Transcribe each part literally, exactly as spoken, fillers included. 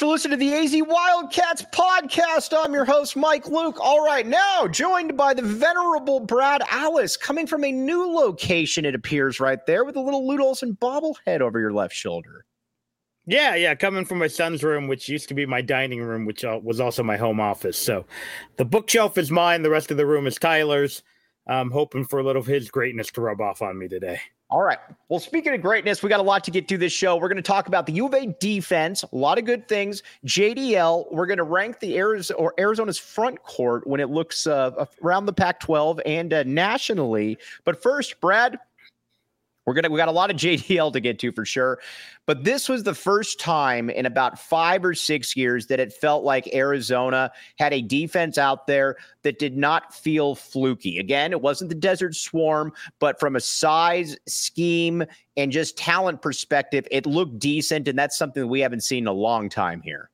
listening to the A Z Wildcats podcast. I'm your host, Mike Luke. All right, now joined by the venerable Brad Alice, coming from a new location, it appears, right there, with a little Lute Olson bobblehead over your left shoulder. Yeah, yeah, coming from my son's room, which used to be my dining room, which was also my home office. So the bookshelf is mine. The rest of the room is Tyler's. I'm hoping for a little of his greatness to rub off on me today. All right. Well, speaking of greatness, we got a lot to get through this show. We're going to talk about the U of A defense, a lot of good things. J D L, we're going to rank the Arizona, or Arizona's front court when it looks uh, around the Pac twelve and uh, nationally. But first, Brad, we're gonna we got a lot of J D L to get to for sure. But this was the first time in about five or six years that it felt like Arizona had a defense out there that did not feel fluky. Again, it wasn't the Desert Swarm, but from a size, scheme, and just talent perspective, it looked decent, and that's something that we haven't seen in a long time here.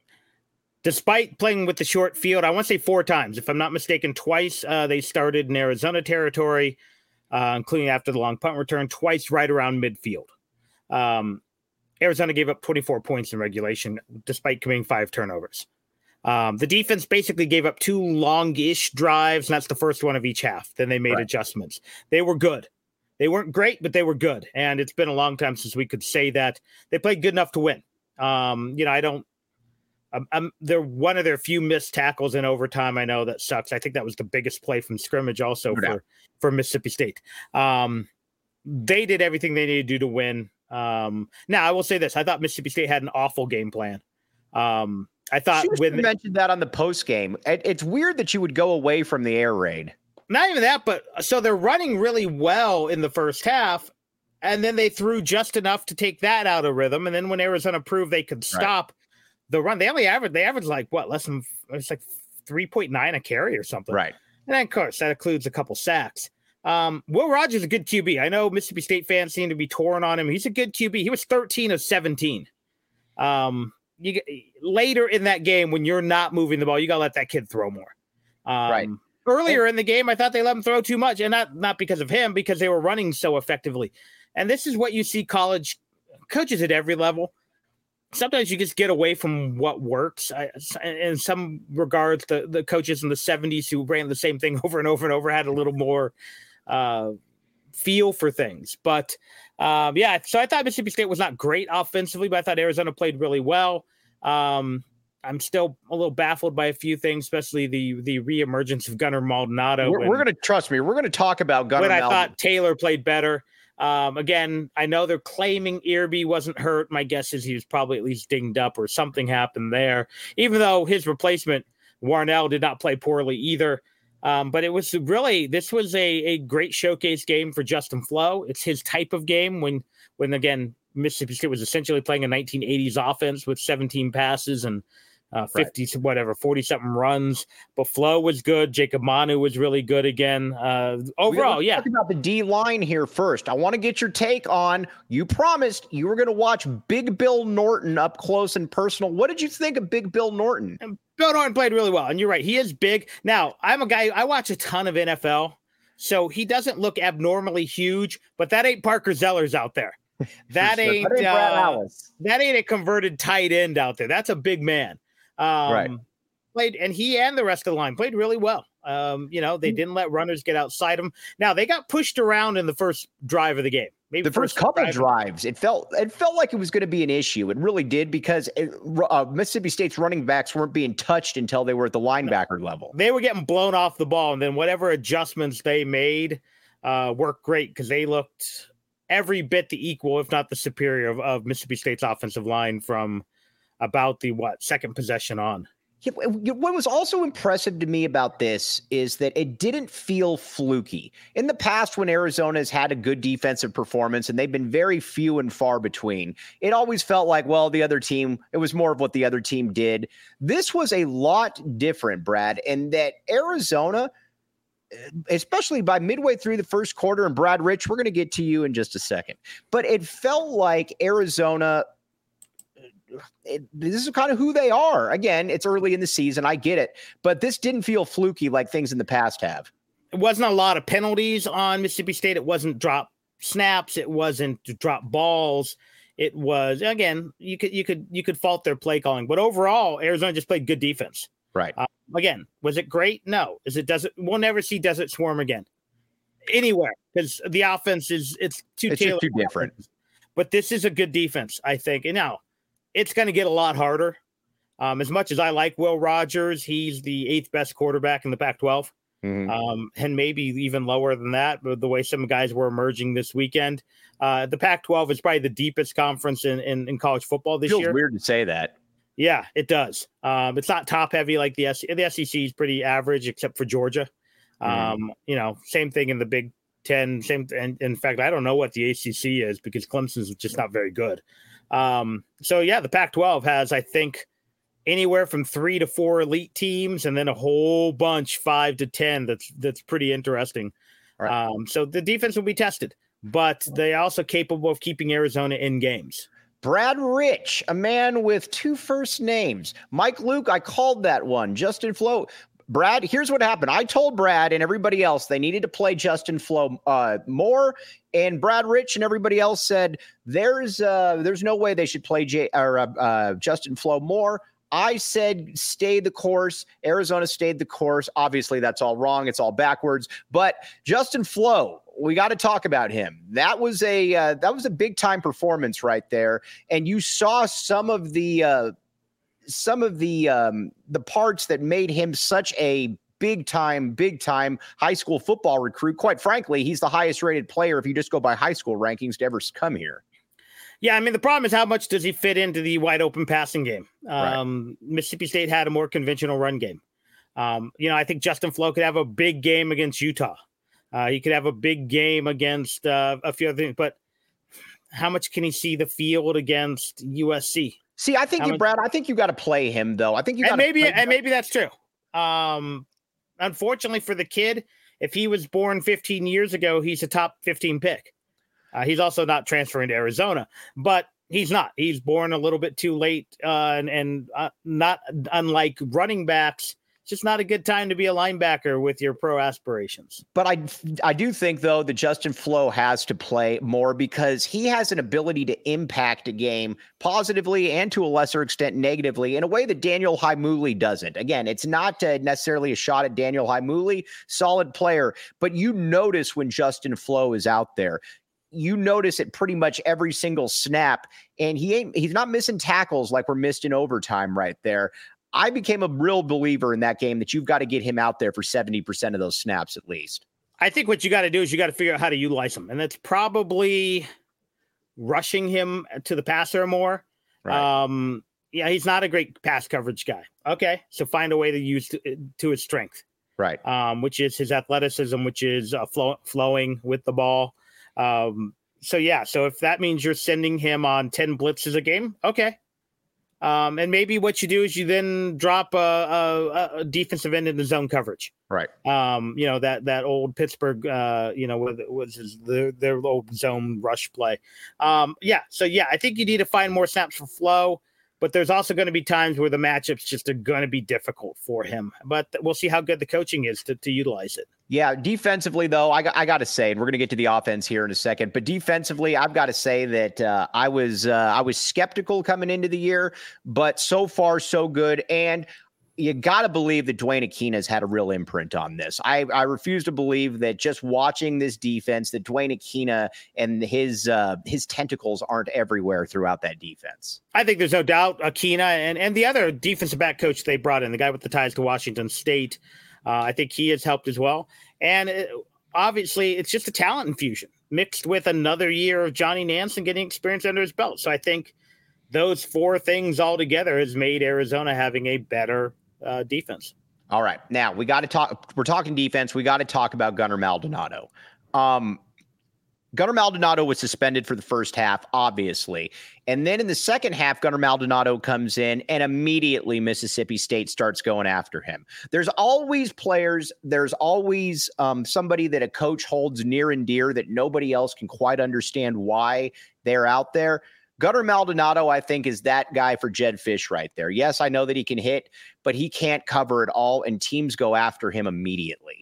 Despite playing with the short field, I want to say four times. If I'm not mistaken, twice uh, they started in Arizona territory, uh, including after the long punt return, twice right around midfield. Um, Arizona gave up twenty-four points in regulation, despite committing five turnovers. Um, the defense basically gave up two longish drives, and that's the first one of each half. Then they made right. adjustments. They were good. They weren't great, but they were good. And it's been a long time since we could say that. They played good enough to win. Um, you know, I don't I'm, I'm, they're one of their few missed tackles in overtime. I know that sucks. I think that was the biggest play from scrimmage also no for, for Mississippi State. Um, they did everything they needed to do to win. Um, now, I will say this. I thought Mississippi State had an awful game plan. Um, I thought when you mentioned that on the post game, it, it's weird that you would go away from the air raid. Not even that, but so they're running really well in the first half, and then they threw just enough to take that out of rhythm. And then when Arizona proved they could stop right. the run, they only averaged, they averaged like what, less than, it's like three point nine a carry or something. Right. And then, of course, that includes a couple sacks. Um, Will Rogers is a good Q B. I know Mississippi State fans seem to be torn on him. He's a good Q B. He was thirteen of seventeen. Um, you later in that game when you're not moving the ball, you got to let that kid throw more. Um, right. Earlier in the game, I thought they let him throw too much, and not not because of him, because they were running so effectively. And this is what you see college coaches at every level. Sometimes you just get away from what works. I, in some regards, the, the coaches in the seventies who ran the same thing over and over and over had a little more uh, feel for things. But, um, yeah, so I thought Mississippi State was not great offensively, but I thought Arizona played really well. Um, I'm still a little baffled by a few things, especially the the reemergence of Gunnar Maldonado. We're, we're going to trust me. We're going to talk about Gunnar. When I Maldonado. thought Taylor played better. Um, again, I know they're claiming Irby wasn't hurt. My guess is he was probably at least dinged up or something happened there. Even though his replacement Warnell did not play poorly either. Um, but it was really this was a a great showcase game for Justin Flo. It's his type of game when when again Mississippi State was essentially playing a nineteen eighties offense with seventeen passes and uh, fifty right. whatever forty something runs. But Flo was good. Jacob Manu was really good again. Uh, overall, yeah. Talk about the D line here first. I want to get your take on. You promised you were going to watch Big Bill Norton up close and personal. What did you think of Big Bill Norton? And Bill Norton played really well, and you're right. He is big. Now, I'm a guy. I watch a ton of N F L, so he doesn't look abnormally huge. But that ain't Parker Zellers out there. That sure. ain't, that ain't uh, that ain't a converted tight end out there. That's a big man. Um, right. Played, and he and the rest of the line played really well. Um, you know, they didn't let runners get outside them. Now they got pushed around in the first drive of the game. Maybe the first, first couple drive. drives, it felt it felt like it was going to be an issue. It really did because it, uh, Mississippi State's running backs weren't being touched until they were at the linebacker no. level. They were getting blown off the ball, and then whatever adjustments they made uh, worked great because they looked every bit the equal, if not the superior, of, of Mississippi State's offensive line from about the what second possession on. Yeah, what was also impressive to me about this is that it didn't feel fluky. In the past, when Arizona has had a good defensive performance, and they've been very few and far between, it always felt like, well, the other team, it was more of what the other team did. This was a lot different, Brad, in that Arizona, especially by midway through the first quarter, and Brad Rich, we're going to get to you in just a second, but it felt like Arizona – It, this is kind of who they are. Again, it's early in the season. I get it. But this didn't feel fluky like things in the past have. It wasn't a lot of penalties on Mississippi State. It wasn't drop snaps. It wasn't drop balls. it was, again, you could you could you could fault their play calling, but overall, Arizona just played good defense. Right. Uh, again, was it great? No. Is it desert? We'll never see Desert Swarm again anywhere because the offense is it's too it's just too different. Offense. But this is a good defense, I think. And now it's going to get a lot harder. Um, as much as I like Will Rogers, he's the eighth best quarterback in the Pac twelve. Mm-hmm. Um, and maybe even lower than that, but the way some guys were emerging this weekend. Uh, the Pac twelve is probably the deepest conference in, in, in college football this Feels year. Weird to say that. Yeah, it does. Um, it's not top heavy like the S E C. The S E C is pretty average, except for Georgia. Um, mm-hmm. You know, same thing in the Big Ten. Same, and in fact, I don't know what the A C C is because Clemson's just not very good. Um, so yeah, the Pac twelve has, I think, anywhere from three to four elite teams, and then a whole bunch, five to ten. That's that's pretty interesting. Right. Um, so the defense will be tested, but they're also capable of keeping Arizona in games. Brad Rich, a man with two first names. Mike Luke, I called that one. Justin Flo. Brad, here's what happened. I told Brad and everybody else they needed to play Justin Flo uh, more, and Brad Rich and everybody else said there's uh, there's no way they should play J- or uh, uh, Justin Flo more. I said stay the course. Arizona stayed the course. Obviously, that's all wrong. It's all backwards. But Justin Flo, we got to talk about him. That was a uh, that was a big time performance right there, and you saw some of the uh, some of the um, the parts that made him such a big time, big time high school football recruit. Quite frankly, he's the highest rated player if you just go by high school rankings to ever come here. Yeah, I mean, the problem is how much does he fit into the wide open passing game? Um, right. Mississippi State had a more conventional run game. Um, you know, I think Justin Flo could have a big game against Utah. Uh, he could have a big game against uh, a few other things, but how much can he see the field against U S C? See, I think how you, much... Brad, I think you got to play him though. I think you got to maybe, and maybe that's true. Um, unfortunately for the kid, if he was born fifteen years ago, he's a top fifteen pick. Uh, he's also not transferring to Arizona, but he's not. He's born a little bit too late, uh, and, and uh, not unlike running backs. It's just not a good time to be a linebacker with your pro aspirations. But I, I do think, though, that Justin Flo has to play more because he has an ability to impact a game positively and to a lesser extent negatively in a way that Daniel Haimuli doesn't. Again, it's not uh, necessarily a shot at Daniel Haimuli, solid player, but you notice when Justin Flo is out there. You notice it pretty much every single snap, and he ain't, he's not missing tackles like we're missed in overtime right there. I became a real believer in that game that you've got to get him out there for seventy percent of those snaps at least. I think what you got to do is you got to figure out how to utilize him, and that's probably rushing him to the passer more. Right. Um, yeah, he's not a great pass coverage guy. Okay, so find a way to use to, to his strength, right? Um, which is his athleticism, which is uh, flow, flowing with the ball. Um, so yeah, so if that means you're sending him on ten blitzes a game, okay. Um, and maybe what you do is you then drop a, a, a defensive end in the zone coverage. Right. Um, you know, that, that old Pittsburgh, uh, you know, what was his, their, their old zone rush play. Um, yeah. So yeah, I think you need to find more snaps for Flo, but there's also going to be times where the matchups just are going to be difficult for him, but we'll see how good the coaching is to, to utilize it. Yeah, defensively, though, I, I got to say, and we're going to get to the offense here in a second, but defensively, I've got to say that uh, I was uh, I was skeptical coming into the year, but so far, so good. And you got to believe that Dwayne Aquina has had a real imprint on this. I, I refuse to believe that just watching this defense, that Dwayne Aquina and his uh, his tentacles aren't everywhere throughout that defense. I think there's no doubt Aquina and, and the other defensive back coach they brought in, the guy with the ties to Washington State, Uh, I think he has helped as well. And it, obviously, it's just a talent infusion mixed with another year of Johnny Nansen getting experience under his belt. So I think those four things all together has made Arizona having a better uh, defense. All right. Now, we got to talk. We're talking defense. We got to talk about Gunnar Maldonado. Um, Gunnar Maldonado was suspended for the first half, obviously. And then in the second half, Gunnar Maldonado comes in and immediately Mississippi State starts going after him. There's always players. There's always um, somebody that a coach holds near and dear that nobody else can quite understand why they're out there. Gunnar Maldonado, I think, is that guy for Jedd Fisch right there. Yes, I know that he can hit, but he can't cover it all, and teams go after him immediately.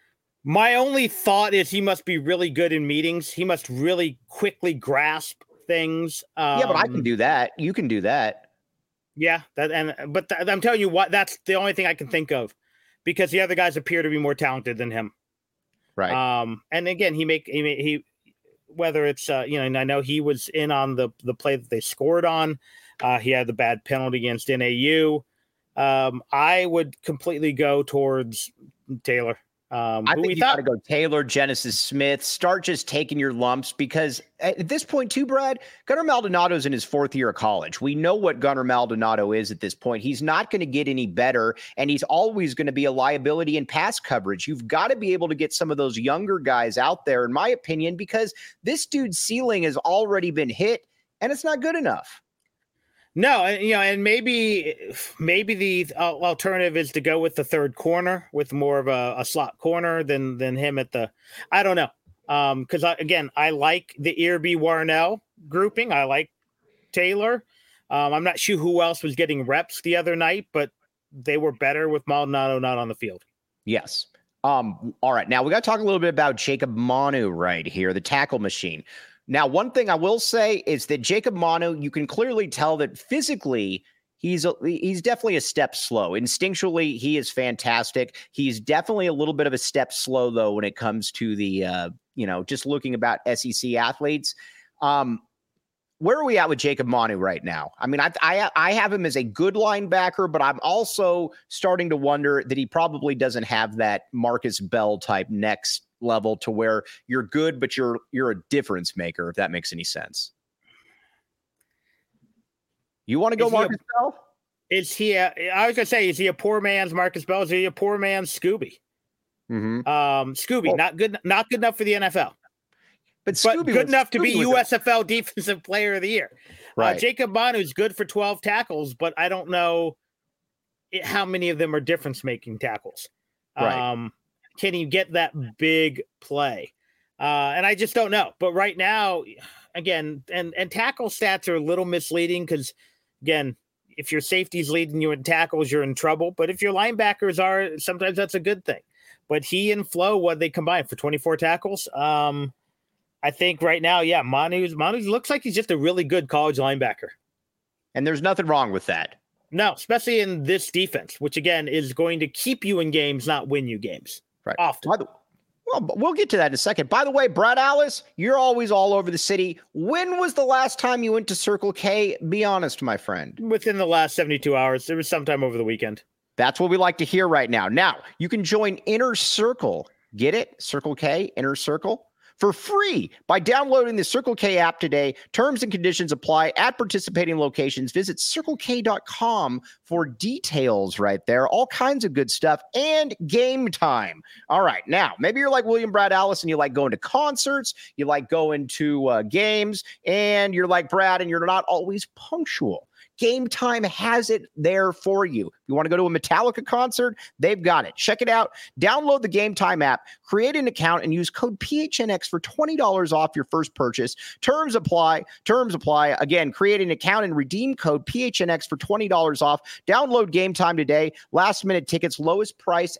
My only thought is he must be really good in meetings. He must really quickly grasp things. Um, yeah, but I can do that. You can do that. Yeah, that and but th- I'm telling you what, that's the only thing I can think of, because the other guys appear to be more talented than him. Right. Um, and again, he make he, he whether it's uh, you know, and I know he was in on the the play that they scored on. Uh, he had the bad penalty against N A U. Um, I would completely go towards Taylor. Um, I who think we you thought got to go Taylor, Genesis Smith. Start just taking your lumps, because at this point, too, Brad, Gunnar Maldonado's in his fourth year of college. We know what Gunnar Maldonado is at this point. He's not going to get any better, and he's always going to be a liability in pass coverage. You've got to be able to get some of those younger guys out there, in my opinion, because this dude's ceiling has already been hit, and it's not good enough. No, you know, and maybe maybe the alternative is to go with the third corner, with more of a, a slot corner than than him at the. I don't know, um, because again, I like the Irby Warnell grouping. I like Taylor. Um, I'm not sure who else was getting reps the other night, but they were better with Maldonado not on the field. Yes. Um. All right. Now we got to talk a little bit about Jacob Manu right here, the tackle machine. Now, one thing I will say is that Jacob Manu, you can clearly tell that physically he's a, he's definitely a step slow. Instinctually, he is fantastic. He's definitely a little bit of a step slow, though, when it comes to the, uh, you know, just looking about S E C athletes. Um, where are we at with Jacob Manu right now? I mean, I, I I have him as a good linebacker, but I'm also starting to wonder that he probably doesn't have that Marcus Bell type next level to where you're good, but you're you're a difference maker, if that makes any sense. You want to go Marcus a, Bell? Is he a, I was gonna say, is he a poor man's Marcus Bell? Is he a poor man's Scooby? Mm-hmm. Um, Scooby, well, not good, not good enough for the N F L. But, but Scooby good was, enough to Scooby be U S F L Defensive Player of the Year. Right. Uh, Jacob Manu's good for twelve tackles, but I don't know it, how many of them are difference-making tackles. Right. Um, can he get that big play? Uh, and I just don't know. But right now, again, and, and tackle stats are a little misleading because, again, if your safety's leading you in tackles, you're in trouble. But if your linebackers are, sometimes that's a good thing. But he and Flo, what they combined for twenty-four tackles? Um, I think right now, yeah, Manu's Manu's looks like he's just a really good college linebacker. And there's nothing wrong with that. No, especially in this defense, which, again, is going to keep you in games, not win you games. Right. Often. By the, well, we'll get to that in a second. By the way, Brad Alice, you're always all over the city. When was the last time you went to Circle K? Be honest, my friend. Within the last seventy-two hours. It was sometime over the weekend. That's what we like to hear right now. Now, you can join Inner Circle. Get it? Circle K, Inner Circle. For free by downloading the Circle K app today. Terms and conditions apply at participating locations. Visit circle k dot com for details right there. All kinds of good stuff and game time. All right. Now, maybe you're like William Brad Alice and you like going to concerts, you like going to uh, games, and you're like Brad and you're not always punctual. Game Time has it there for you. You want to go to a Metallica concert? They've got it. Check it out. Download the Game Time app, create an account, and use code P H N X for twenty dollars off your first purchase. Terms apply. Terms apply. Again, create an account and redeem code P H N X for twenty dollars off. Download Game Time today. Last minute tickets, lowest price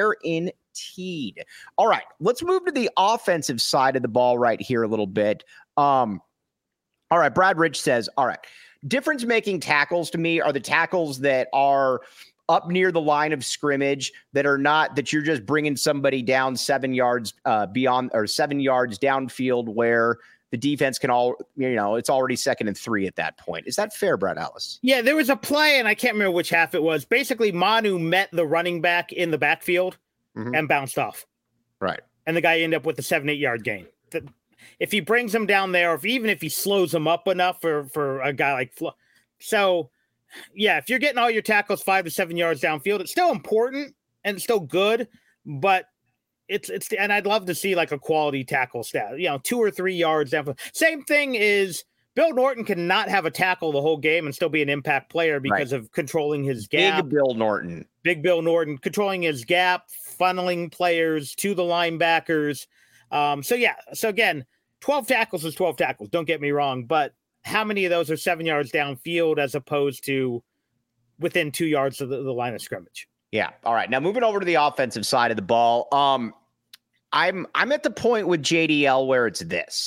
guaranteed. All right, let's move to the offensive side of the ball right here a little bit. Um, all right, Brad Rich says, all right, difference-making tackles to me are the tackles that are up near the line of scrimmage, that are not that you're just bringing somebody down seven yards uh, beyond or seven yards downfield where the defense can all, you know, it's already second and three at that point. Is that fair, Brad Alice? Yeah, there was a play, and I can't remember which half it was. Basically, Manu met the running back in the backfield mm-hmm. and bounced off. Right. And the guy ended up with a seven, eight yard gain. The, if he brings him down there, or if, even if he slows him up enough for, for a guy like Flo. So, yeah, if you're getting all your tackles five to seven yards downfield, it's still important and it's still good, but it's, it's, and I'd love to see like a quality tackle stat, you know, two or three yards downfield. Same thing is Bill Norton cannot have a tackle the whole game and still be an impact player because right. of controlling his gap. Big Bill Norton. Big Bill Norton, controlling his gap, funneling players to the linebackers. Um, so, yeah, so again, twelve tackles is twelve tackles. Don't get me wrong, but how many of those are seven yards downfield as opposed to within two yards of the, the line of scrimmage? Yeah. All right. Now moving over to the offensive side of the ball. Um, I'm, I'm at the point with J D L where it's this.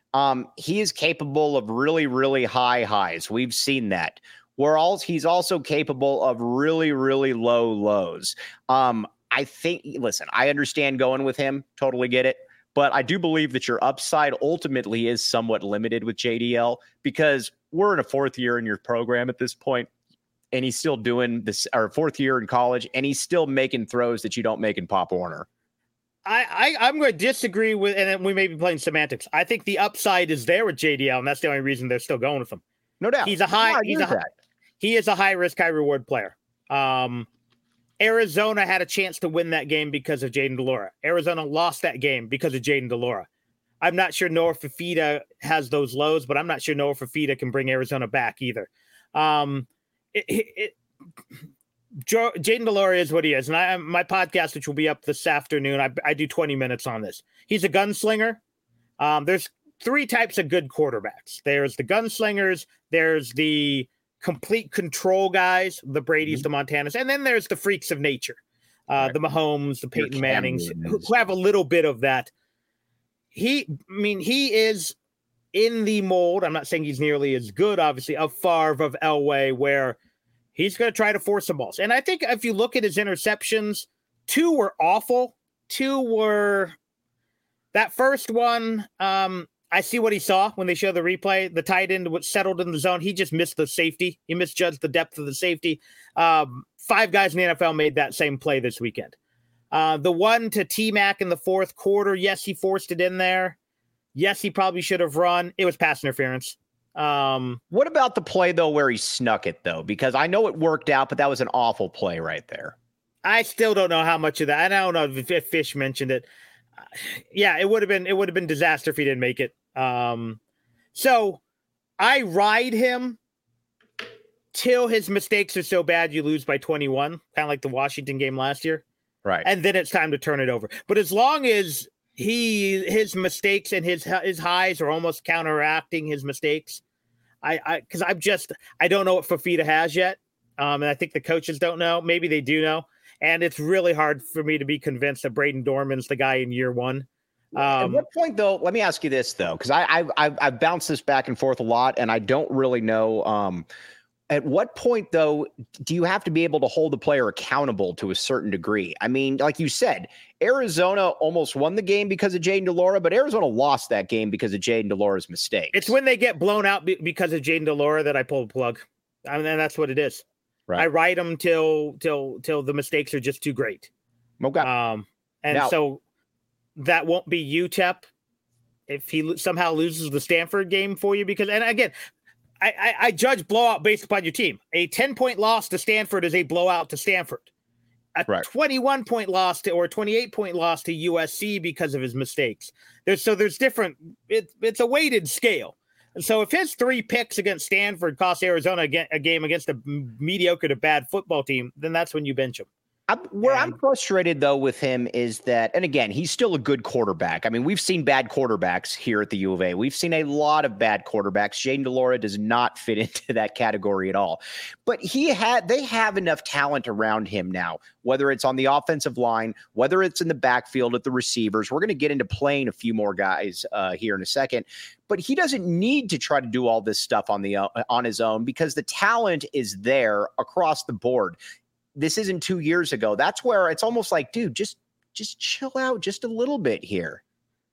Um, he is capable of really, really high highs. We've seen that. We're all, he's also capable of really, really low lows. Um, I think, listen, I understand going with him, totally get it. But I do believe that your upside ultimately is somewhat limited with J D L because we're in a fourth year in your program at this point, and he's still doing this, or fourth year in college, and he's still making throws that you don't make in Pop Warner. I, I, I'm going to disagree with, and we may be playing semantics. I think the upside is there with J D L, and that's the only reason they're still going with him. No doubt. He's a high, no, he's a, that. he is a high risk, high reward player. Um, Arizona had a chance to win that game because of Jayden de Laura. Arizona lost that game because of Jayden de Laura. I'm not sure Noah Fifita has those lows, but I'm not sure Noah Fifita can bring Arizona back either. Um, it, it, it, Jayden de Laura is what he is. And I, my podcast, which will be up this afternoon, I, I do twenty minutes on this. He's a gunslinger. Um, there's three types of good quarterbacks. There's the gunslingers. There's the complete control guys, the Brady's, mm-hmm. the Montanas, and then there's the freaks of nature, uh, right. the Mahomes, the Peyton Mannings, who, who have a little bit of that. He, I mean, he is in the mold. I'm not saying he's nearly as good, obviously, of Favre, of Elway, where he's going to try to force some balls. And I think if you look at his interceptions, two were awful. Two were that first one. Um, I see what he saw when they show the replay. The tight end was settled in the zone. He just missed the safety. He misjudged the depth of the safety. Um, five guys in the N F L made that same play this weekend. Uh, the one to T-Mac in the fourth quarter, yes, he forced it in there. Yes, he probably should have run. It was pass interference. Um, what about the play, though, where he snuck it, though? Because I know it worked out, but that was an awful play right there. I still don't know how much of that. I don't know if, if Fish mentioned it. Uh, yeah, it would have been it would have been disaster if he didn't make it. Um, so I ride him till his mistakes are so bad you lose by twenty-one, kind of like the Washington game last year. Right. And then it's time to turn it over. But as long as he his mistakes and his his highs are almost counteracting his mistakes, I I because I'm just I don't know what Fifita has yet. Um, and I think the coaches don't know. Maybe they do know. And it's really hard for me to be convinced that Braden Dorman's the guy in year one. Um, At what point, though, let me ask you this, though, because I, I, I've, I've bounced this back and forth a lot, and I don't really know. Um, at what point, though, do you have to be able to hold the player accountable to a certain degree? I mean, like you said, Arizona almost won the game because of Jayden de Laura, but Arizona lost that game because of Jayden de Laura's mistakes. It's when they get blown out be- because of Jayden de Laura that I pull the plug. I mean, that's what it is. Right. I ride them till till till the mistakes are just too great. Okay. Um, and now, so that won't be U T E P if he somehow loses the Stanford game for you. Because, and again, I, I, I judge blowout based upon your team. A ten-point loss to Stanford is a blowout to Stanford. A right. twenty-one-point loss to or twenty-eight-point loss to U S C because of his mistakes. There's so there's different. It, it's a weighted scale. And so if his three picks against Stanford cost Arizona a game against a mediocre to bad football team, then that's when you bench him. I'm, where and, I'm frustrated, though, with him is that, and again, he's still a good quarterback. I mean, we've seen bad quarterbacks here at the U of A. We've seen a lot of bad quarterbacks. Jayden de Laura does not fit into that category at all. But he had, they have enough talent around him now, whether it's on the offensive line, whether it's in the backfield at the receivers. We're going to get into playing a few more guys uh, here in a second. But he doesn't need to try to do all this stuff on the uh, on his own because the talent is there across the board. This isn't two years ago. That's where it's almost like, dude, just just chill out just a little bit here.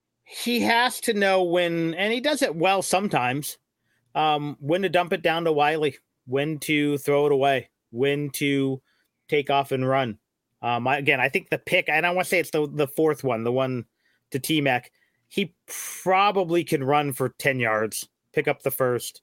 He has to know when, and he does it well sometimes, um, when to dump it down to Wiley, when to throw it away, when to take off and run. Um, I, again, I think the pick, and I want to say it's the, the fourth one, the one to T-Mac, he probably can run for ten yards, pick up the first,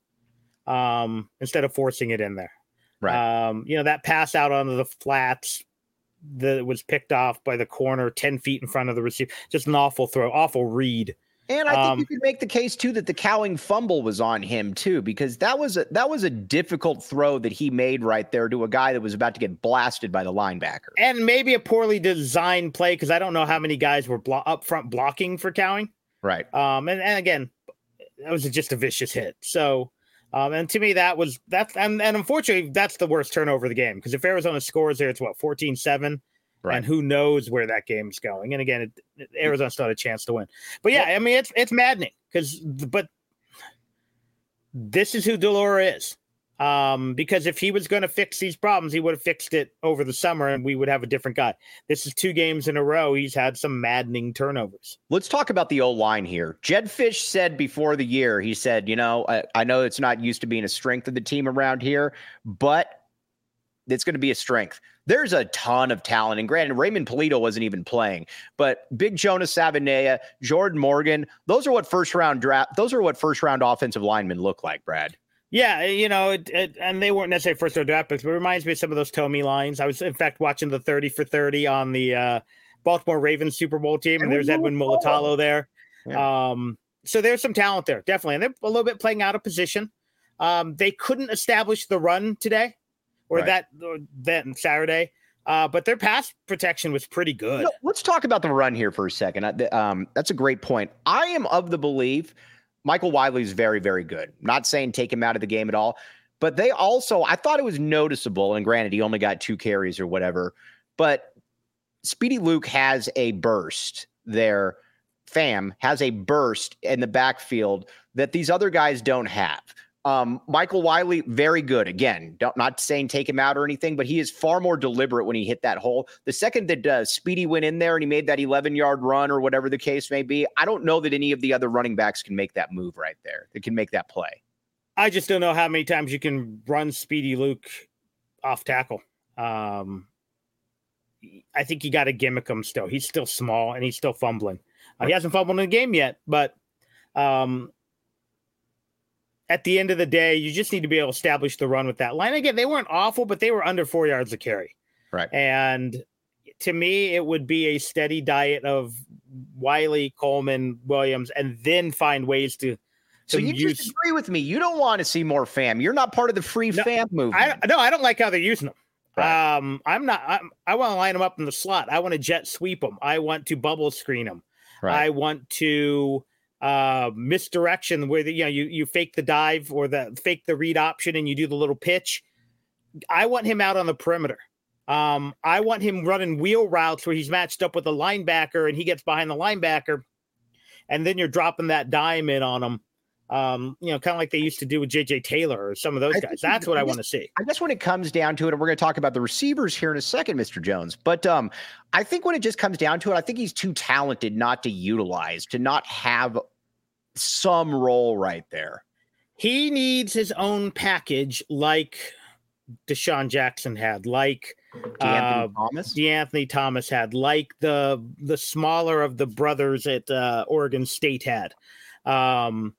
um, instead of forcing it in there. Right. Um, you know, that pass out onto the flats that was picked off by the corner ten feet in front of the receiver. Just an awful throw, awful read. And I think um, you could make the case, too, that the Cowing fumble was on him, too, because that was a, that was a difficult throw that he made right there to a guy that was about to get blasted by the linebacker. And maybe a poorly designed play because I don't know how many guys were blo- up front blocking for Cowing. Right. Um, and, and again, that was just a vicious hit. So, Um, and to me, that was that's and, and unfortunately, that's the worst turnover of the game because if Arizona scores there, it's what fourteen seven, Right. And who knows where that game's going. And again, it, it, Arizona still had a chance to win. But yeah, I mean, it's it's maddening because, but this is who de Laura is. Um, because if he was going to fix these problems, he would have fixed it over the summer and we would have a different guy. This is two games in a row. He's had some maddening turnovers. Let's talk about the O-line here. Jedd Fisch said before the year, he said, you know, I, I know it's not used to being a strength of the team around here, but it's going to be a strength. There's a ton of talent. And granted, Raymond Polito wasn't even playing, but Big Jonas Savaiinaea, Jordan Morgan, those are what first round draft, those are what first round offensive linemen look like, Brad. Yeah, you know, it, it, and they weren't necessarily first round draft picks, but it reminds me of some of those Tomey lines. I was, in fact, watching the thirty for thirty on the uh, Baltimore Ravens Super Bowl team, and there's Edwin Mulatalo there. Yeah. Um, so there's some talent there, definitely. And they're a little bit playing out of position. Um, they couldn't establish the run today. Or right. that or that Saturday, uh, but their pass protection was pretty good. You know, let's talk about the run here for a second. Um, that's a great point. I am of the belief Michael Wiley is very, very good. I'm not saying take him out of the game at all, but they also, I thought it was noticeable, and granted, he only got two carries or whatever, but Speedy Luke has a burst there. Fam has a burst in the backfield that these other guys don't have. Um, Michael Wiley, very good. Again, don't, not saying take him out or anything, but he is far more deliberate when he hit that hole. The second that uh, Speedy went in there and he made that eleven-yard run or whatever the case may be, I don't know that any of the other running backs can make that move right there. That can make that play. I just don't know how many times you can run Speedy Luke off tackle. Um, I think you got to gimmick him still. He's still small and he's still fumbling. Uh, he hasn't fumbled in the game yet, but um, – at the end of the day, you just need to be able to establish the run with that line. Again, they weren't awful, but they were under four yards a carry. Right. And to me, it would be a steady diet of Wiley, Coleman, Williams, and then find ways to. to so you use... just agree with me. You don't want to see more fam. You're not part of the free no, fam movement. I, no, I don't like how they're using them. Right. Um, I'm not. I'm, I want to line them up in the slot. I want to jet sweep them. I want to bubble screen them. Right. I want to. Uh, misdirection where the, you know you you fake the dive or the fake the read option and you do the little pitch. I want him out on the perimeter. Um, I want him running wheel routes where he's matched up with a linebacker and he gets behind the linebacker, and then you're dropping that dime in on him. Um, you know, kind of like they used to do with J J Taylor or some of those guys. That's what I, I want to see. I guess when it comes down to it, and we're going to talk about the receivers here in a second, Mister Jones. But um, I think when it just comes down to it, I think he's too talented not to utilize, to not have some role right there. He needs his own package like Deshaun Jackson had, like DeAnthony uh, Thomas. DeAnthony Thomas had, like the the smaller of the brothers at uh, Oregon State had. Um,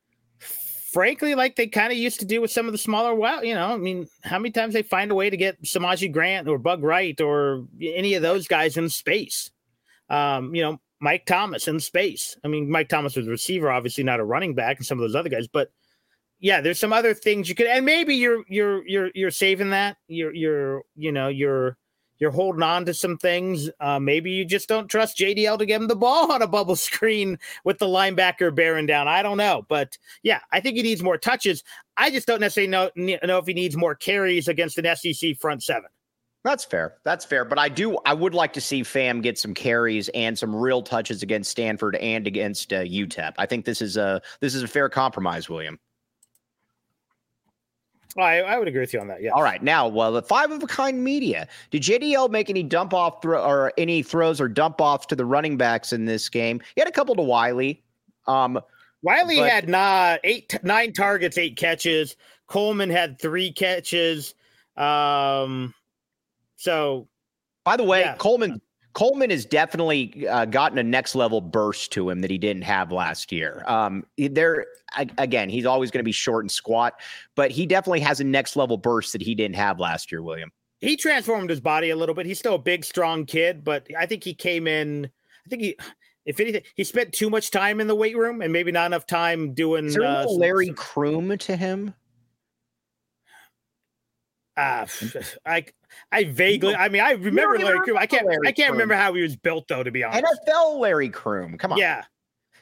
frankly, like they kind of used to do with some of the smaller, well, you know, I mean, how many times they find a way to get Samaje Grant or Bug Wright or any of those guys in space? Um, you know, Mike Thomas in space. I mean, Mike Thomas was a receiver, obviously not a running back, and some of those other guys. But yeah, there's some other things you could, and maybe you're you're you're you're saving that. You're you're you know you're you're holding on to some things. Uh, maybe you just don't trust J D L to give him the ball on a bubble screen with the linebacker bearing down. I don't know, but yeah, I think he needs more touches. I just don't necessarily know know if he needs more carries against an S E C front seven. That's fair. That's fair. But I do, I would like to see Fam get some carries and some real touches against Stanford and against uh, U T E P. I think this is a, this is a fair compromise, William. Well, I, I would agree with you on that. Yeah. All right. Now, well, the five of a kind media, did J D L make any dump off throw or any throws or dump offs to the running backs in this game? He had a couple to Wiley. Um, Wiley but, had not eight, nine targets, eight catches. Coleman had three catches. Um, So, by the way, yeah. Coleman Coleman has definitely uh, gotten a next level burst to him that he didn't have last year. Um, there again, he's always going to be short and squat, but he definitely has a next level burst that he didn't have last year. William, he transformed his body a little bit. He's still a big, strong kid, but I think he came in. I think he, if anything, he spent too much time in the weight room and maybe not enough time doing. Is there uh, a Larry some, Kroom to him? Uh, I I vaguely, I mean, I remember Larry Kroom. I can't, Larry I can't Kroom. remember how he was built though, to be honest. N F L Larry Kroom. Come on. Yeah.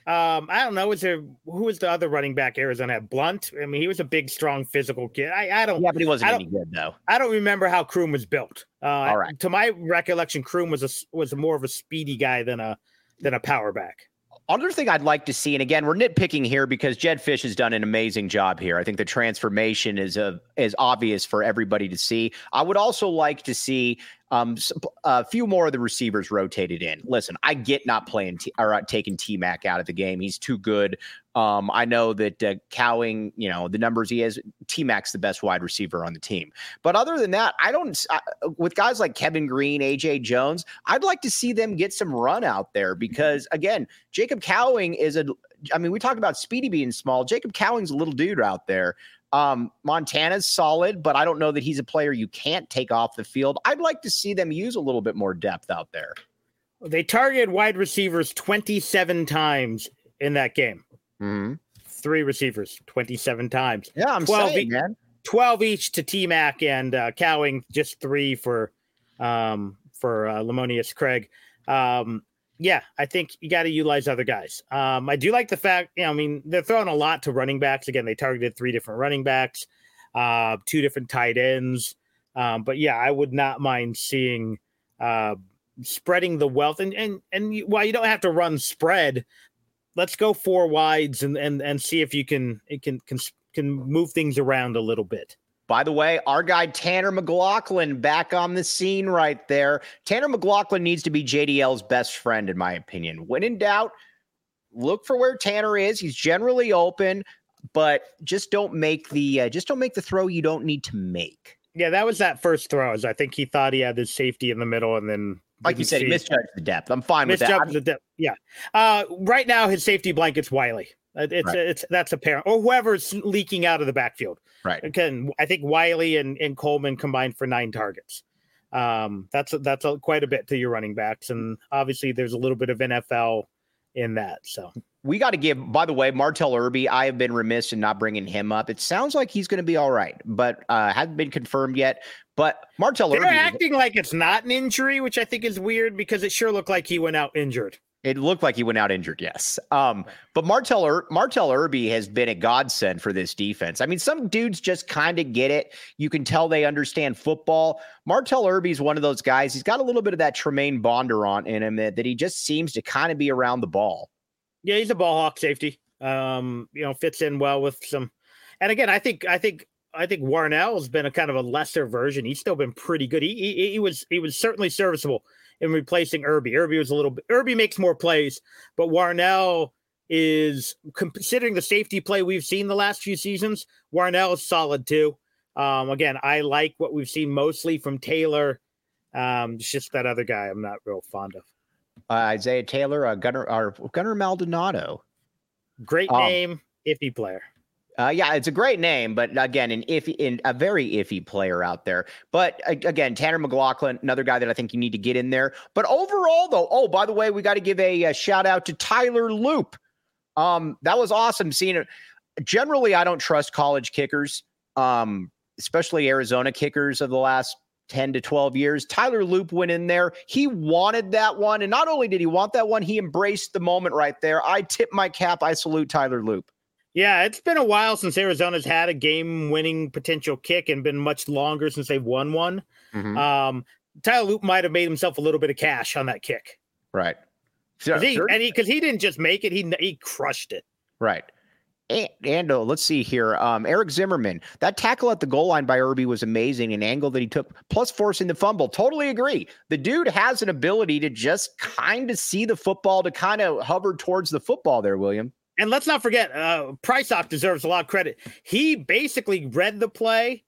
Um, I don't know. Is there who was the other running back Arizona had? Blunt. I mean, he was a big, strong, physical kid. I, I don't. Yeah, but he wasn't any good though. I don't remember how Kroom was built. Uh, All right. To my recollection, Kroom was a was more of a speedy guy than a than a power back. Other thing I'd like to see, and again, we're nitpicking here because Jedd Fisch has done an amazing job here. I think the transformation is a, is obvious for everybody to see. I would also like to see um, a few more of the receivers rotated in. Listen, I get not playing T- or uh, taking T-Mac out of the game. He's too good. Um, I know that uh, Cowing, you know, the numbers he has, T-Mac's the best wide receiver on the team. But other than that, I don't, I, with guys like Kevin Green, A J Jones, I'd like to see them get some run out there because, again, Jacob Cowing is a, I mean, we talk about Speedy being small. Jacob Cowing's a little dude out there. Um, Montana's solid, but I don't know that he's a player you can't take off the field. I'd like to see them use a little bit more depth out there. They targeted wide receivers twenty-seven times in that game. Mm-hmm. Three receivers, twenty-seven times. Yeah, I'm twelve saying, e- man. twelve each to T-Mac and uh, Cowing, just three for um, for uh, Lamonius Craig. Um, yeah, I think you got to utilize other guys. Um, I do like the fact, you know, I mean, they're throwing a lot to running backs. Again, they targeted three different running backs, uh, two different tight ends. Um, but yeah, I would not mind seeing uh, spreading the wealth. And and and you, while you don't have to run spread, let's go four wides and and and see if you can it can can can move things around a little bit. By the way, our guy Tanner McLaughlin back on the scene right there. Tanner McLaughlin needs to be J D L's best friend, in my opinion. When in doubt, look for where Tanner is. He's generally open, but just don't make the uh, just don't make the throw you don't need to make. Yeah, that was that first throw. I think he thought he had his safety in the middle, and then like you said, he misjudged the depth. I'm fine with that. Misjudged the depth. Yeah. Uh, right now, his safety blanket's Wiley. It's right. it's that's apparent, or whoever's leaking out of the backfield. Right. Again, I think Wiley and, and Coleman combined for nine targets. Um, that's that's a, quite a bit to your running backs, and obviously there's a little bit of N F L in that. So we got to give. By the way, Martell Irby, I have been remiss in not bringing him up. It sounds like he's going to be all right, but uh, hasn't been confirmed yet. But Martell They're Irby, acting like it's not an injury, which I think is weird because it sure looked like he went out injured. It looked like he went out injured, yes. Um, but Martell Ir- Martell Irby has been a godsend for this defense. I mean, some dudes just kind of get it. You can tell they understand football. Martell Irby is one of those guys. He's got a little bit of that Tremaine Bonder on in him that, that he just seems to kind of be around the ball. Yeah, he's a ball hawk safety. Um, you know, fits in well with some. And again, I think I think I think Warnell has been a kind of a lesser version. He's still been pretty good. He he, he was he was certainly serviceable in replacing Irby. Irby was a little bit, Irby makes more plays, but Warnell is, considering the safety play we've seen the last few seasons, Warnell is solid too. Um, again, I like what we've seen mostly from Taylor. Um, it's just that other guy I'm not real fond of. Uh, Isaiah Taylor, uh, Gunnar, or Gunnar Maldonado. Great um, name, iffy player. Uh, yeah, it's a great name, but again, an iffy, in a very iffy player out there. But again, Tanner McLaughlin, another guy that I think you need to get in there. But overall, though, oh, by the way, we got to give a, a shout out to Tyler Loop. Um, that was awesome seeing it. Generally, I don't trust college kickers, um, especially Arizona kickers of the last ten to twelve years. Tyler Loop went in there. He wanted that one. And not only did he want that one, he embraced the moment right there. I tip my cap. I salute Tyler Loop. Yeah, it's been a while since Arizona's had a game-winning potential kick and been much longer since they've won one. Mm-hmm. Um, Tyler Loop might have made himself a little bit of cash on that kick. Right. Cause he, and he, because he didn't just make it, he he crushed it. Right. And, and uh, let's see here. Um, Eric Zimmerman, that tackle at the goal line by Irby was amazing. An angle that he took, plus forcing the fumble. Totally agree. The dude has an ability to just kind of see the football, to kind of hover towards the football there, William. And let's not forget, uh, Prysock deserves a lot of credit. He basically read the play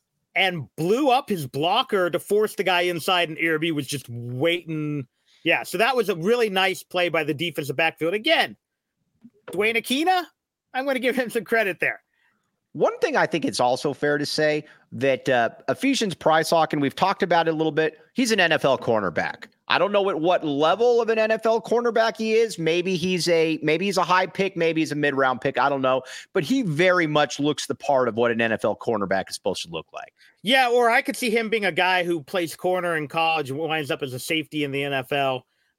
and blew up his blocker to force the guy inside, and Irby was just waiting. Yeah, so that was a really nice play by the defensive backfield. Again, Dwayne Aquina, I'm going to give him some credit there. One thing I think it's also fair to say that uh, Ephesians Prysock, and we've talked about it a little bit, he's an N F L cornerback. I don't know at what level of an N F L cornerback he is. Maybe he's a maybe he's a high pick, maybe he's a mid-round pick. I don't know. But he very much looks the part of what an N F L cornerback is supposed to look like. Yeah, or I could see him being a guy who plays corner in college and winds up as a safety in the N F L.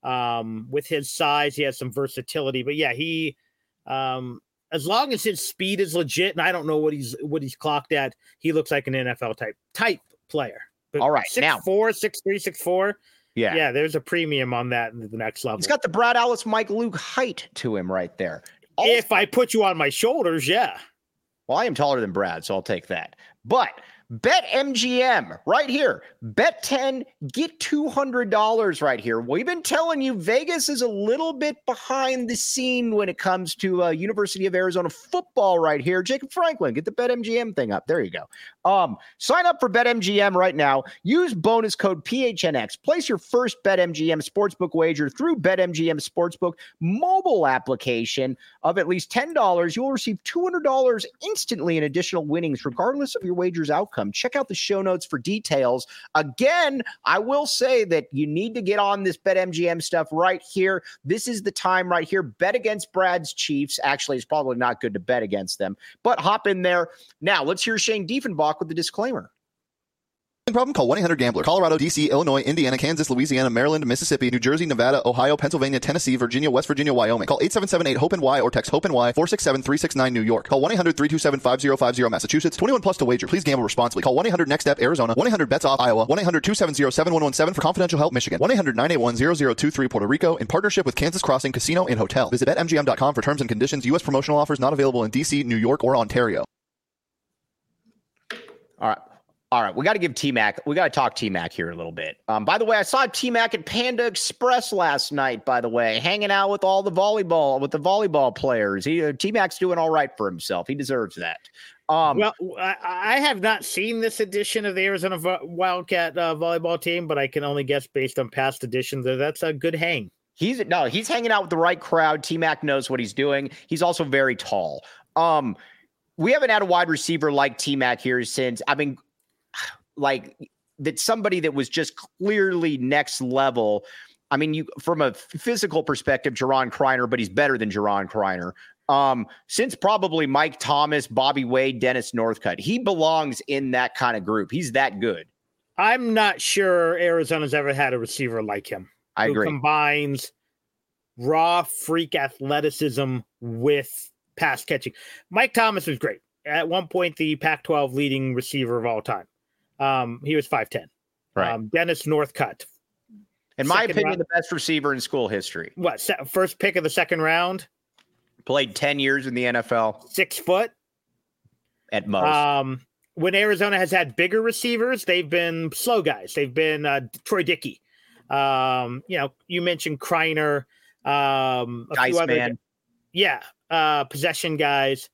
Um, with his size, he has some versatility. But yeah, he um, as long as his speed is legit, and I don't know what he's what he's clocked at, he looks like an N F L type type player. But all right, six now four, six three, six four. Yeah, yeah, there's a premium on that in the next level. He's got the Brad Ellis, Mike Luke height to him right there. Also, if I put you on my shoulders, yeah. Well, I am taller than Brad, so I'll take that. But BetMGM right here. Bet ten, get two hundred dollars right here. We've been telling you Vegas is a little bit behind the scene when it comes to uh, University of Arizona football right here. Jacob Franklin, get the BetMGM thing up. There you go. Um, sign up for BetMGM right now. Use bonus code P H N X. Place your first BetMGM sportsbook wager through BetMGM Sportsbook mobile application of at least ten dollars. You'll receive two hundred dollars instantly in additional winnings, regardless of your wager's outcome. Check out the show notes for details. Again, I will say that you need to get on this BetMGM stuff right here. This is the time right here. Bet against Brad's Chiefs. Actually, it's probably not good to bet against them, but hop in there. Now, let's hear Shane Diefenbach with the disclaimer. Problem? Call one eight hundred gambler. Colorado, D C, Illinois, Indiana, Kansas, Louisiana, Maryland, Mississippi, New Jersey, Nevada, Ohio, Pennsylvania, Tennessee, Virginia, West Virginia, Wyoming. Call eight seven seven eight hope N Y or text HOPE-N Y four six seven three six nine New York. Call one eight hundred three two seven five zero five zero Massachusetts. twenty-one plus to wager. Please gamble responsibly. Call one eight hundred next step Arizona. one eight hundred bets off Iowa. one eight hundred two seven zero seven one one seven for confidential help Michigan. one eight hundred nine eight one zero zero two three Puerto Rico in partnership with Kansas Crossing Casino and Hotel. Visit bet M G M dot com for terms and conditions. U S promotional offers not available in D C, New York, or Ontario. All right. All right, we got to give T-Mac, we got to talk T-Mac here a little bit. Um, by the way, I saw T-Mac at Panda Express last night, by the way, hanging out with all the volleyball, with the volleyball players. He, uh, T-Mac's doing all right for himself. He deserves that. Um, well, I, I have not seen this edition of the Arizona Wildcat uh, volleyball team, but I can only guess based on past editions that that's a good hang. He's no, he's hanging out with the right crowd. T-Mac knows what he's doing. He's also very tall. Um, we haven't had a wide receiver like T-Mac here since, I mean, like that somebody that was just clearly next level. I mean, you from a physical perspective, Jaron Kreiner, but he's better than Jaron Kreiner. Um, since probably Mike Thomas, Bobby Wade, Dennis Northcutt, he belongs in that kind of group. He's that good. I'm not sure Arizona's ever had a receiver like him. I who agree. Combines raw freak athleticism with pass catching. Mike Thomas was great. At one point, the Pac twelve leading receiver of all time. Um, he was five ten. Right. Um, Dennis Northcutt. In my opinion, round, the best receiver in school history. What, se- first pick of the second round? Played ten years in the N F L. Six foot? At most. Um, when Arizona has had bigger receivers, they've been slow guys. They've been uh, Troy Dickey. Um, you know, you mentioned Kreiner. Um, a Dice few other, man. Yeah, uh, possession guys.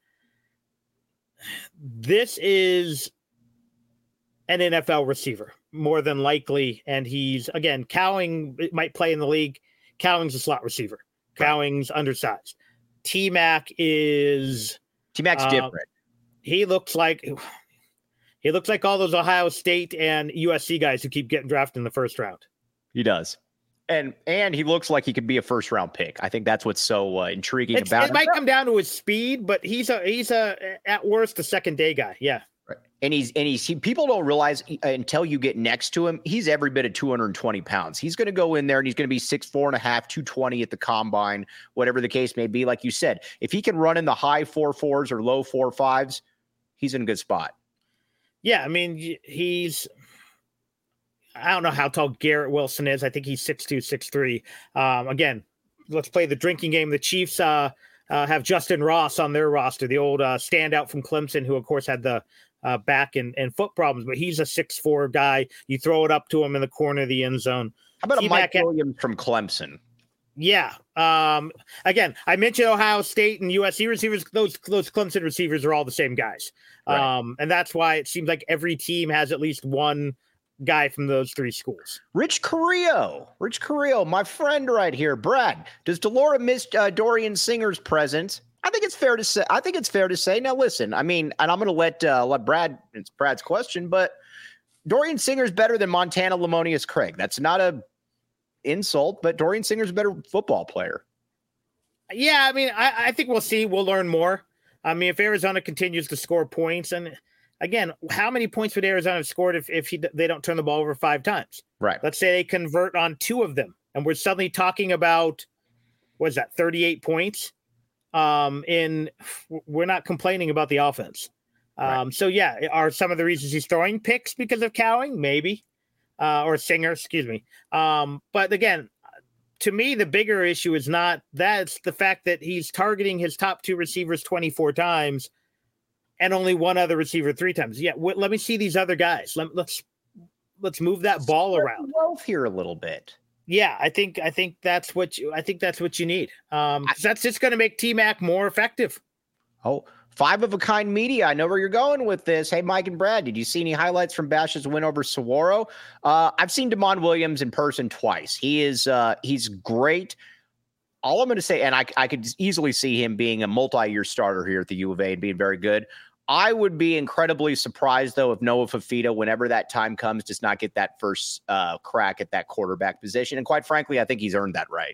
This is an N F L receiver, more than likely. And he's, again, Cowing might play in the league. Cowing's a slot receiver. Cowing's right. Undersized. T-Mac is... T-Mac's uh, different. He looks like... He looks like all those Ohio State and U S C guys who keep getting drafted in the first round. He does. And and he looks like he could be a first-round pick. I think that's what's so uh, intriguing it's, about it him. It might come down to his speed, but he's a, he's a at worst, a second-day guy. Yeah. And he's and he's he, people don't realize until you get next to him, he's every bit of two hundred twenty pounds. He's going to go in there and he's going to be six four and a half, two twenty at the combine, whatever the case may be. Like you said, if he can run in the high four fours or low four fives, he's in a good spot. Yeah, I mean, he's. I don't know how tall Garrett Wilson is. I think he's six two, six three. Um, again, let's play the drinking game. The Chiefs uh, uh, have Justin Ross on their roster, the old uh, standout from Clemson, who of course had the. Uh, back and, and foot problems, but he's a six four guy. You throw it up to him in the corner of the end zone. How about T-Mac a Mike Williams from Clemson? Yeah. Um, again, I mentioned Ohio State and U S C receivers. Those those Clemson receivers are all the same guys. Right. Um, and that's why it seems like every team has at least one guy from those three schools. Rich Carrillo. Rich Carrillo, my friend right here. Brad, does Delora miss uh, Dorian Singer's presence? I think it's fair to say. I think it's fair to say. Now, listen. I mean, and I'm going to let uh, let Brad. It's Brad's question, but Dorian Singer's better than Montana Lamonius Craig. That's not a insult, but Dorian Singer's a better football player. Yeah, I mean, I, I think we'll see. We'll learn more. I mean, if Arizona continues to score points, and again, how many points would Arizona have scored if if he, they don't turn the ball over five times? Right. Let's say they convert on two of them. and we're suddenly talking about, what is that, thirty-eight points. Um, in we're not complaining about the offense. Um, right. So yeah, are some of the reasons he's throwing picks because of Cowing? Maybe, uh, or Singer, excuse me. Um, but again, to me, the bigger issue is not that, it's the fact that he's targeting his top two receivers twenty-four times and only one other receiver three times. Yeah, w- let me see these other guys. Let, let's let's move that ball around. Wealth here a little bit. Yeah, I think I think that's what you I think that's what you need. Um, I, that's just going to make T-Mac more effective. Oh, five of a kind media. I know where you're going with this. Hey, Mike and Brad, did you see any highlights from Bash's win over Saguaro? Uh, I've seen Damon Williams in person twice. He is uh, he's great. All I'm going to say, and I, I could easily see him being a multi-year starter here at the U of A and being very good. I would be incredibly surprised, though, if Noah Fifita, whenever that time comes, does not get that first uh, crack at that quarterback position. And quite frankly, I think he's earned that right.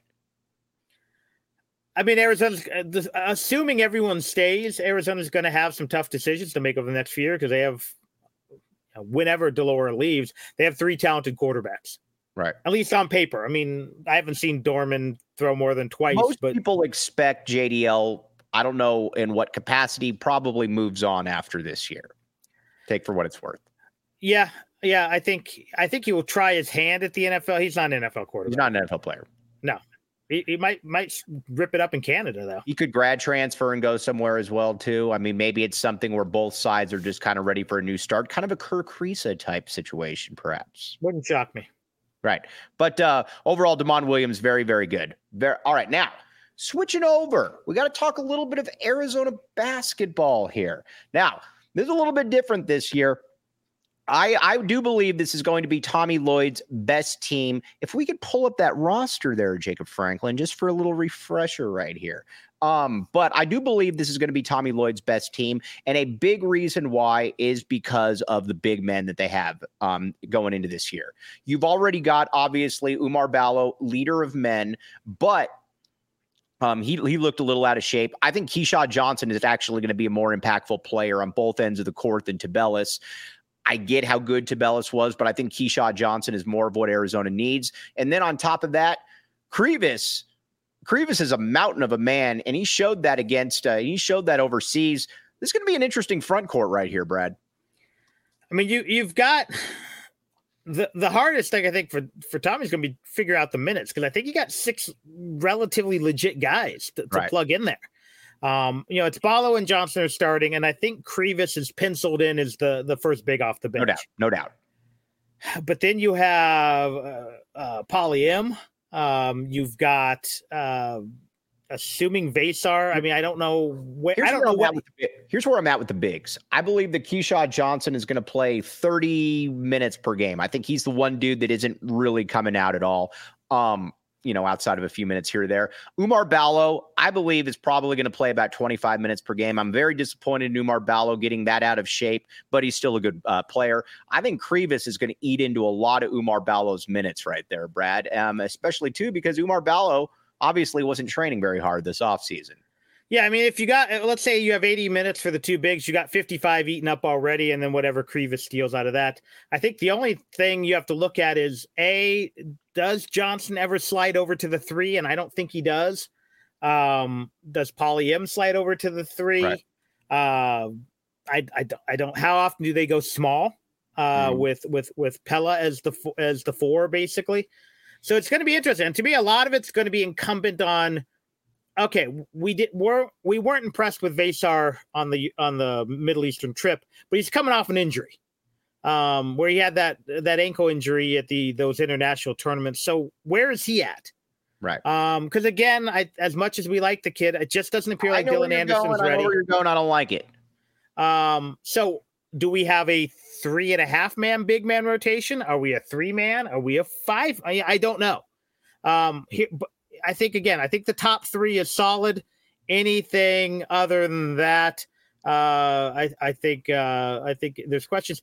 I mean, Arizona's, uh, assuming everyone stays, Arizona's going to have some tough decisions to make over the next few years because they have, uh, whenever Delora leaves, they have three talented quarterbacks. Right. At least on paper. I mean, I haven't seen Dorman throw more than twice. Most but people expect J D L, I don't know in what capacity, probably moves on after this year. Take for what it's worth. Yeah. Yeah. I think, I think he will try his hand at the N F L. He's not an N F L quarterback. He's not an N F L player. No. He, he might might rip it up in Canada, though. He could grad transfer and go somewhere as well, too. I mean, maybe it's something where both sides are just kind of ready for a new start. Kind of a Kirk Risa type situation, perhaps. Wouldn't shock me. Right. But uh, overall, Damon Williams, very, very good. Very, all right. Now, switching over, we got to talk a little bit of Arizona basketball here. Now, this is a little bit different this year. I, I do believe this is going to be Tommy Lloyd's best team. If we could pull up that roster there, Jacob Franklin, just for a little refresher right here. Um, but I do believe this is going to be Tommy Lloyd's best team. And a big reason why is because of the big men that they have um, going into this year. You've already got, obviously, Umar Ballo, leader of men, but Um, he he looked a little out of shape. I think Keyshawn Johnson is actually going to be a more impactful player on both ends of the court than Tabellis. I get how good Tabellis was, but I think Keyshawn Johnson is more of what Arizona needs. And then on top of that, Krivas, Krivas is a mountain of a man, and he showed that against, uh, he showed that overseas. This is going to be an interesting front court right here, Brad. I mean, you, you've got the, the hardest thing I think for, for Tommy's going to be figure out the minutes. Cause I think you got six relatively legit guys to, to right. plug in there. Um, you know, it's Ballo and Johnson are starting, and I think Krivas is penciled in as the, the first big off the bench. No doubt. No doubt. But then you have uh, uh, Poly M. Um, you've got, uh, assuming Vasar. I mean, I don't know where. Here's I don't where know I'm what. at with the, here's where I'm at with the bigs. I believe that Keyshawn Johnson is going to play thirty minutes per game. I think he's the one dude that isn't really coming out at all. Um, you know, outside of a few minutes here or there. Umar Ballo, I believe, is probably going to play about twenty-five minutes per game. I'm very disappointed in Umar Ballo getting that out of shape, but he's still a good uh, player. I think Krivas is going to eat into a lot of Umar Ballo's minutes right there, Brad, um, especially, too, because Umar Ballo obviously wasn't training very hard this offseason. Yeah, I mean, if you got, let's say you have eighty minutes for the two bigs, you got fifty-five eaten up already, and then whatever Krivas steals out of that. I think the only thing you have to look at is, A, does Johnson ever slide over to the three? And I don't think he does. Um, does Poly M slide over to the three? Right. Uh, I, I, I don't, how often do they go small uh, mm. with, with, with Pella as the, as the four, basically? So it's going to be interesting. And to me, a lot of it's going to be incumbent on, okay, we did we're we weren't impressed with Vasar on the on the Middle Eastern trip, but he's coming off an injury, um, where he had that that ankle injury at the those international tournaments. So where is he at? Right. Um, because again, I as much as we like the kid, it just doesn't appear like Dylan Anderson's ready. I know where you're going. I don't like it. Um, so do we have a three and a half man big man rotation? Are we a three man? Are we a five? I, I don't know. Um, here, but I think, again, I think the top three is solid. Anything other than that, uh, I, I think uh, I think there's questions.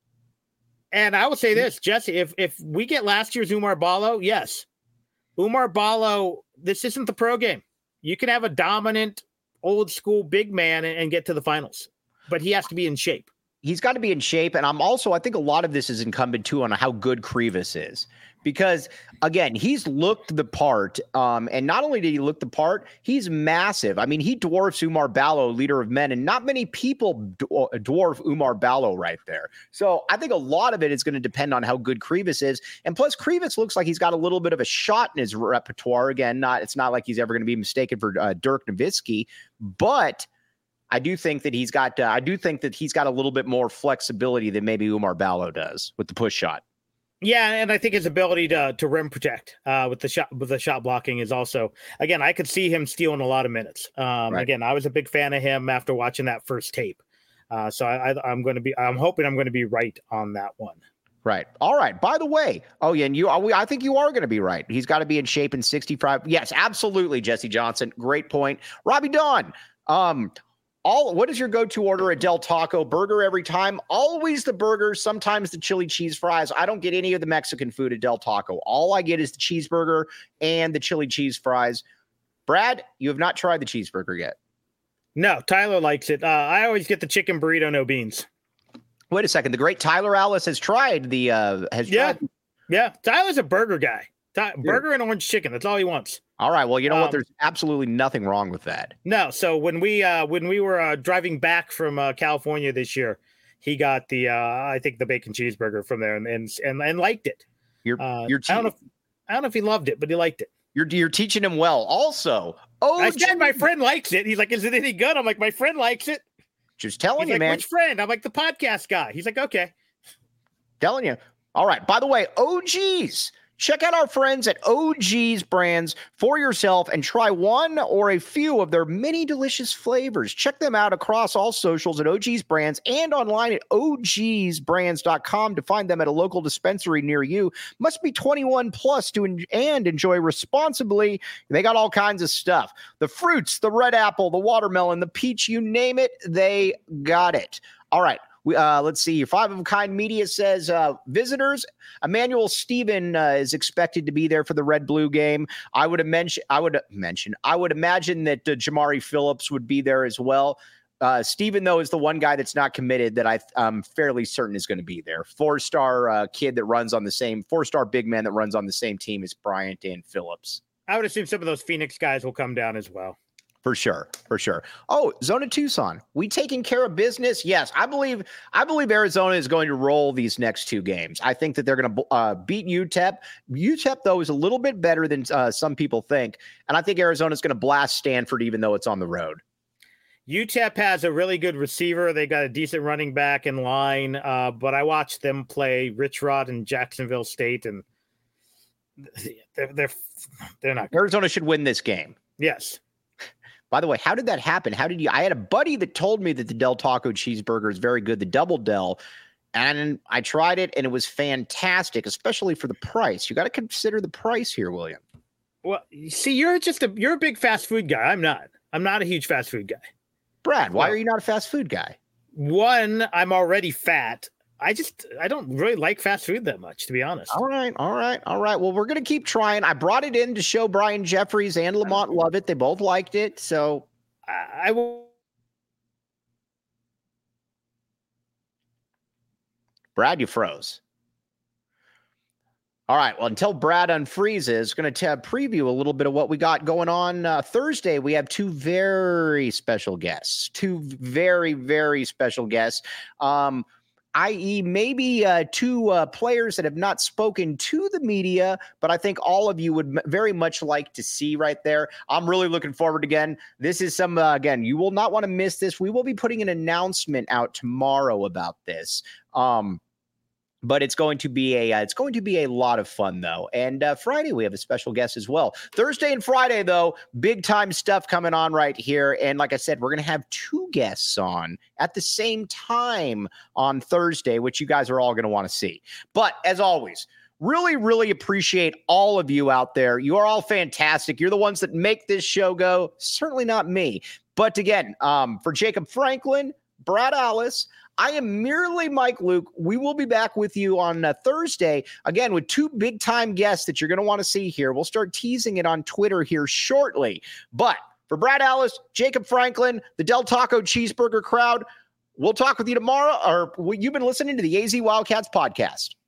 And I will say this, Jesse, if if we get last year's Umar Ballo, yes. Umar Ballo, this isn't the pro game. You can have a dominant, old school big man and, and get to the finals. But he has to be in shape. He's got to be in shape. And I'm also, I think a lot of this is incumbent, too, on how good Krivas is. because again, he's looked the part. Um, and not only did he look the part, he's massive. I mean, he dwarfs Umar Ballo, leader of men, and not many people dwarf Umar Ballo right there. So I think a lot of it is going to depend on how good Krivas is. And plus, Krivas looks like he's got a little bit of a shot in his repertoire. Again, not it's not like he's ever going to be mistaken for uh, Dirk Nowitzki, but I do think that he's got. Uh, I do think that he's got a little bit more flexibility than maybe Umar Ballo does with the push shot. Yeah, and I think his ability to to rim protect uh, with the shot with the shot blocking is also. Again, I could see him stealing a lot of minutes. Um, right. Again, I was a big fan of him after watching that first tape. Uh, so I, I, I'm going to be. I'm hoping I'm going to be right on that one. Right. All right. By the way, oh yeah, and you, I think you are going to be right. He's got to be in shape in sixty-five. Yes, absolutely, Jesse Johnson. Great point, Robbie Dawn. Um. All, what is your go-to order at Del Taco? Burger every time? Always the burger, sometimes the chili cheese fries. I don't get any of the Mexican food at Del Taco. All I get is the cheeseburger and the chili cheese fries. Brad, you have not tried the cheeseburger yet. No, Tyler likes it. Uh, I always get the chicken burrito, no beans. Wait a second. The great Tyler Alice has tried the... Uh, has yeah, tried- yeah. Tyler's a burger guy. Ty- burger and orange chicken. That's all he wants. All right. Well, you know um, what? There's absolutely nothing wrong with that. No. So when we uh, when we were uh, driving back from uh, California this year, he got the uh, I think the bacon cheeseburger from there and and and, and liked it. You're, uh, you're te- I don't know. If, I don't know if he loved it, but he liked it. You're you're teaching him well. Also, oh, I said my friend likes it. He's like, "Is it any good?" I'm like, "My friend likes it." Just telling He's you, like, man. Which friend? I'm like the podcast guy. He's like, "Okay." Telling you. All right. By the way, O Gs. Check out our friends at O G's Brands for yourself and try one or a few of their many delicious flavors. Check them out across all socials at O G's Brands and online at O Gs brands dot com to find them at a local dispensary near you. Must be twenty-one plus to en- and enjoy responsibly. They got all kinds of stuff. The fruits, the red apple, the watermelon, the peach, you name it, they got it. All right. We, uh, let's see. Five of a Kind Media says uh, visitors. Emmanuel Stephen uh, is expected to be there for the Red Blue game. I would mention. I would mention. I would imagine that uh, Jamari Phillips would be there as well. Uh, Stephen, though, is the one guy that's not committed that I, I'm fairly certain is going to be there. Four-star uh, kid that runs on the same four-star big man that runs on the same team as Bryant and Phillips. I would assume some of those Phoenix guys will come down as well. For sure, for sure. Oh, Zona Tucson, we taking care of business? Yes, I believe. I believe Arizona is going to roll these next two games. I think that they're going to uh, beat U T E P. U T E P though is a little bit better than uh, some people think, and I think Arizona is going to blast Stanford, even though it's on the road. U T E P has a really good receiver. They got a decent running back in line, uh, but I watched them play Rich Rod and Jacksonville State, and they're they're they're not good. Arizona should win this game. Yes. By the way, how did that happen? How did you? I had a buddy that told me that the Del Taco cheeseburger is very good, the Double Del, and I tried it and it was fantastic, especially for the price. You got to consider the price here, William. Well, see, you're just a you're a big fast food guy. I'm not. I'm not a huge fast food guy. Brad, why well, are you not a fast food guy? One, I'm already fat. I just, I don't really like fast food that much, to be honest. All right, all right, all right. Well, we're going to keep trying. I brought it in to show Brian Jeffries and Lamont love it. They both liked it. So I, I will. Brad, you froze. All right. Well, until Brad unfreezes, going to preview a little bit of what we got going on uh, Thursday. We have two very special guests, two very, very special guests. Um, that is maybe uh, two uh, players that have not spoken to the media, but I think all of you would m- very much like to see right there. I'm really looking forward again. This is some, uh, again, you will not want to miss this. We will be putting an announcement out tomorrow about this. Um, But it's going to be a uh, it's going to be a lot of fun, though. And uh, Friday, we have a special guest as well. Thursday and Friday, though, big time stuff coming on right here. And like I said, we're going to have two guests on at the same time on Thursday, which you guys are all going to want to see. But as always, really, really appreciate all of you out there. You are all fantastic. You're the ones that make this show go. Certainly not me. But again, um, for Jacob Franklin, Brad Alice, I am merely Mike Luke. We will be back with you on uh, Thursday, again, with two big-time guests that you're going to want to see here. We'll start teasing it on Twitter here shortly. But for Brad Alice, Jacob Franklin, the Del Taco Cheeseburger crowd, we'll talk with you tomorrow, or you've been listening to the A Z Wildcats podcast.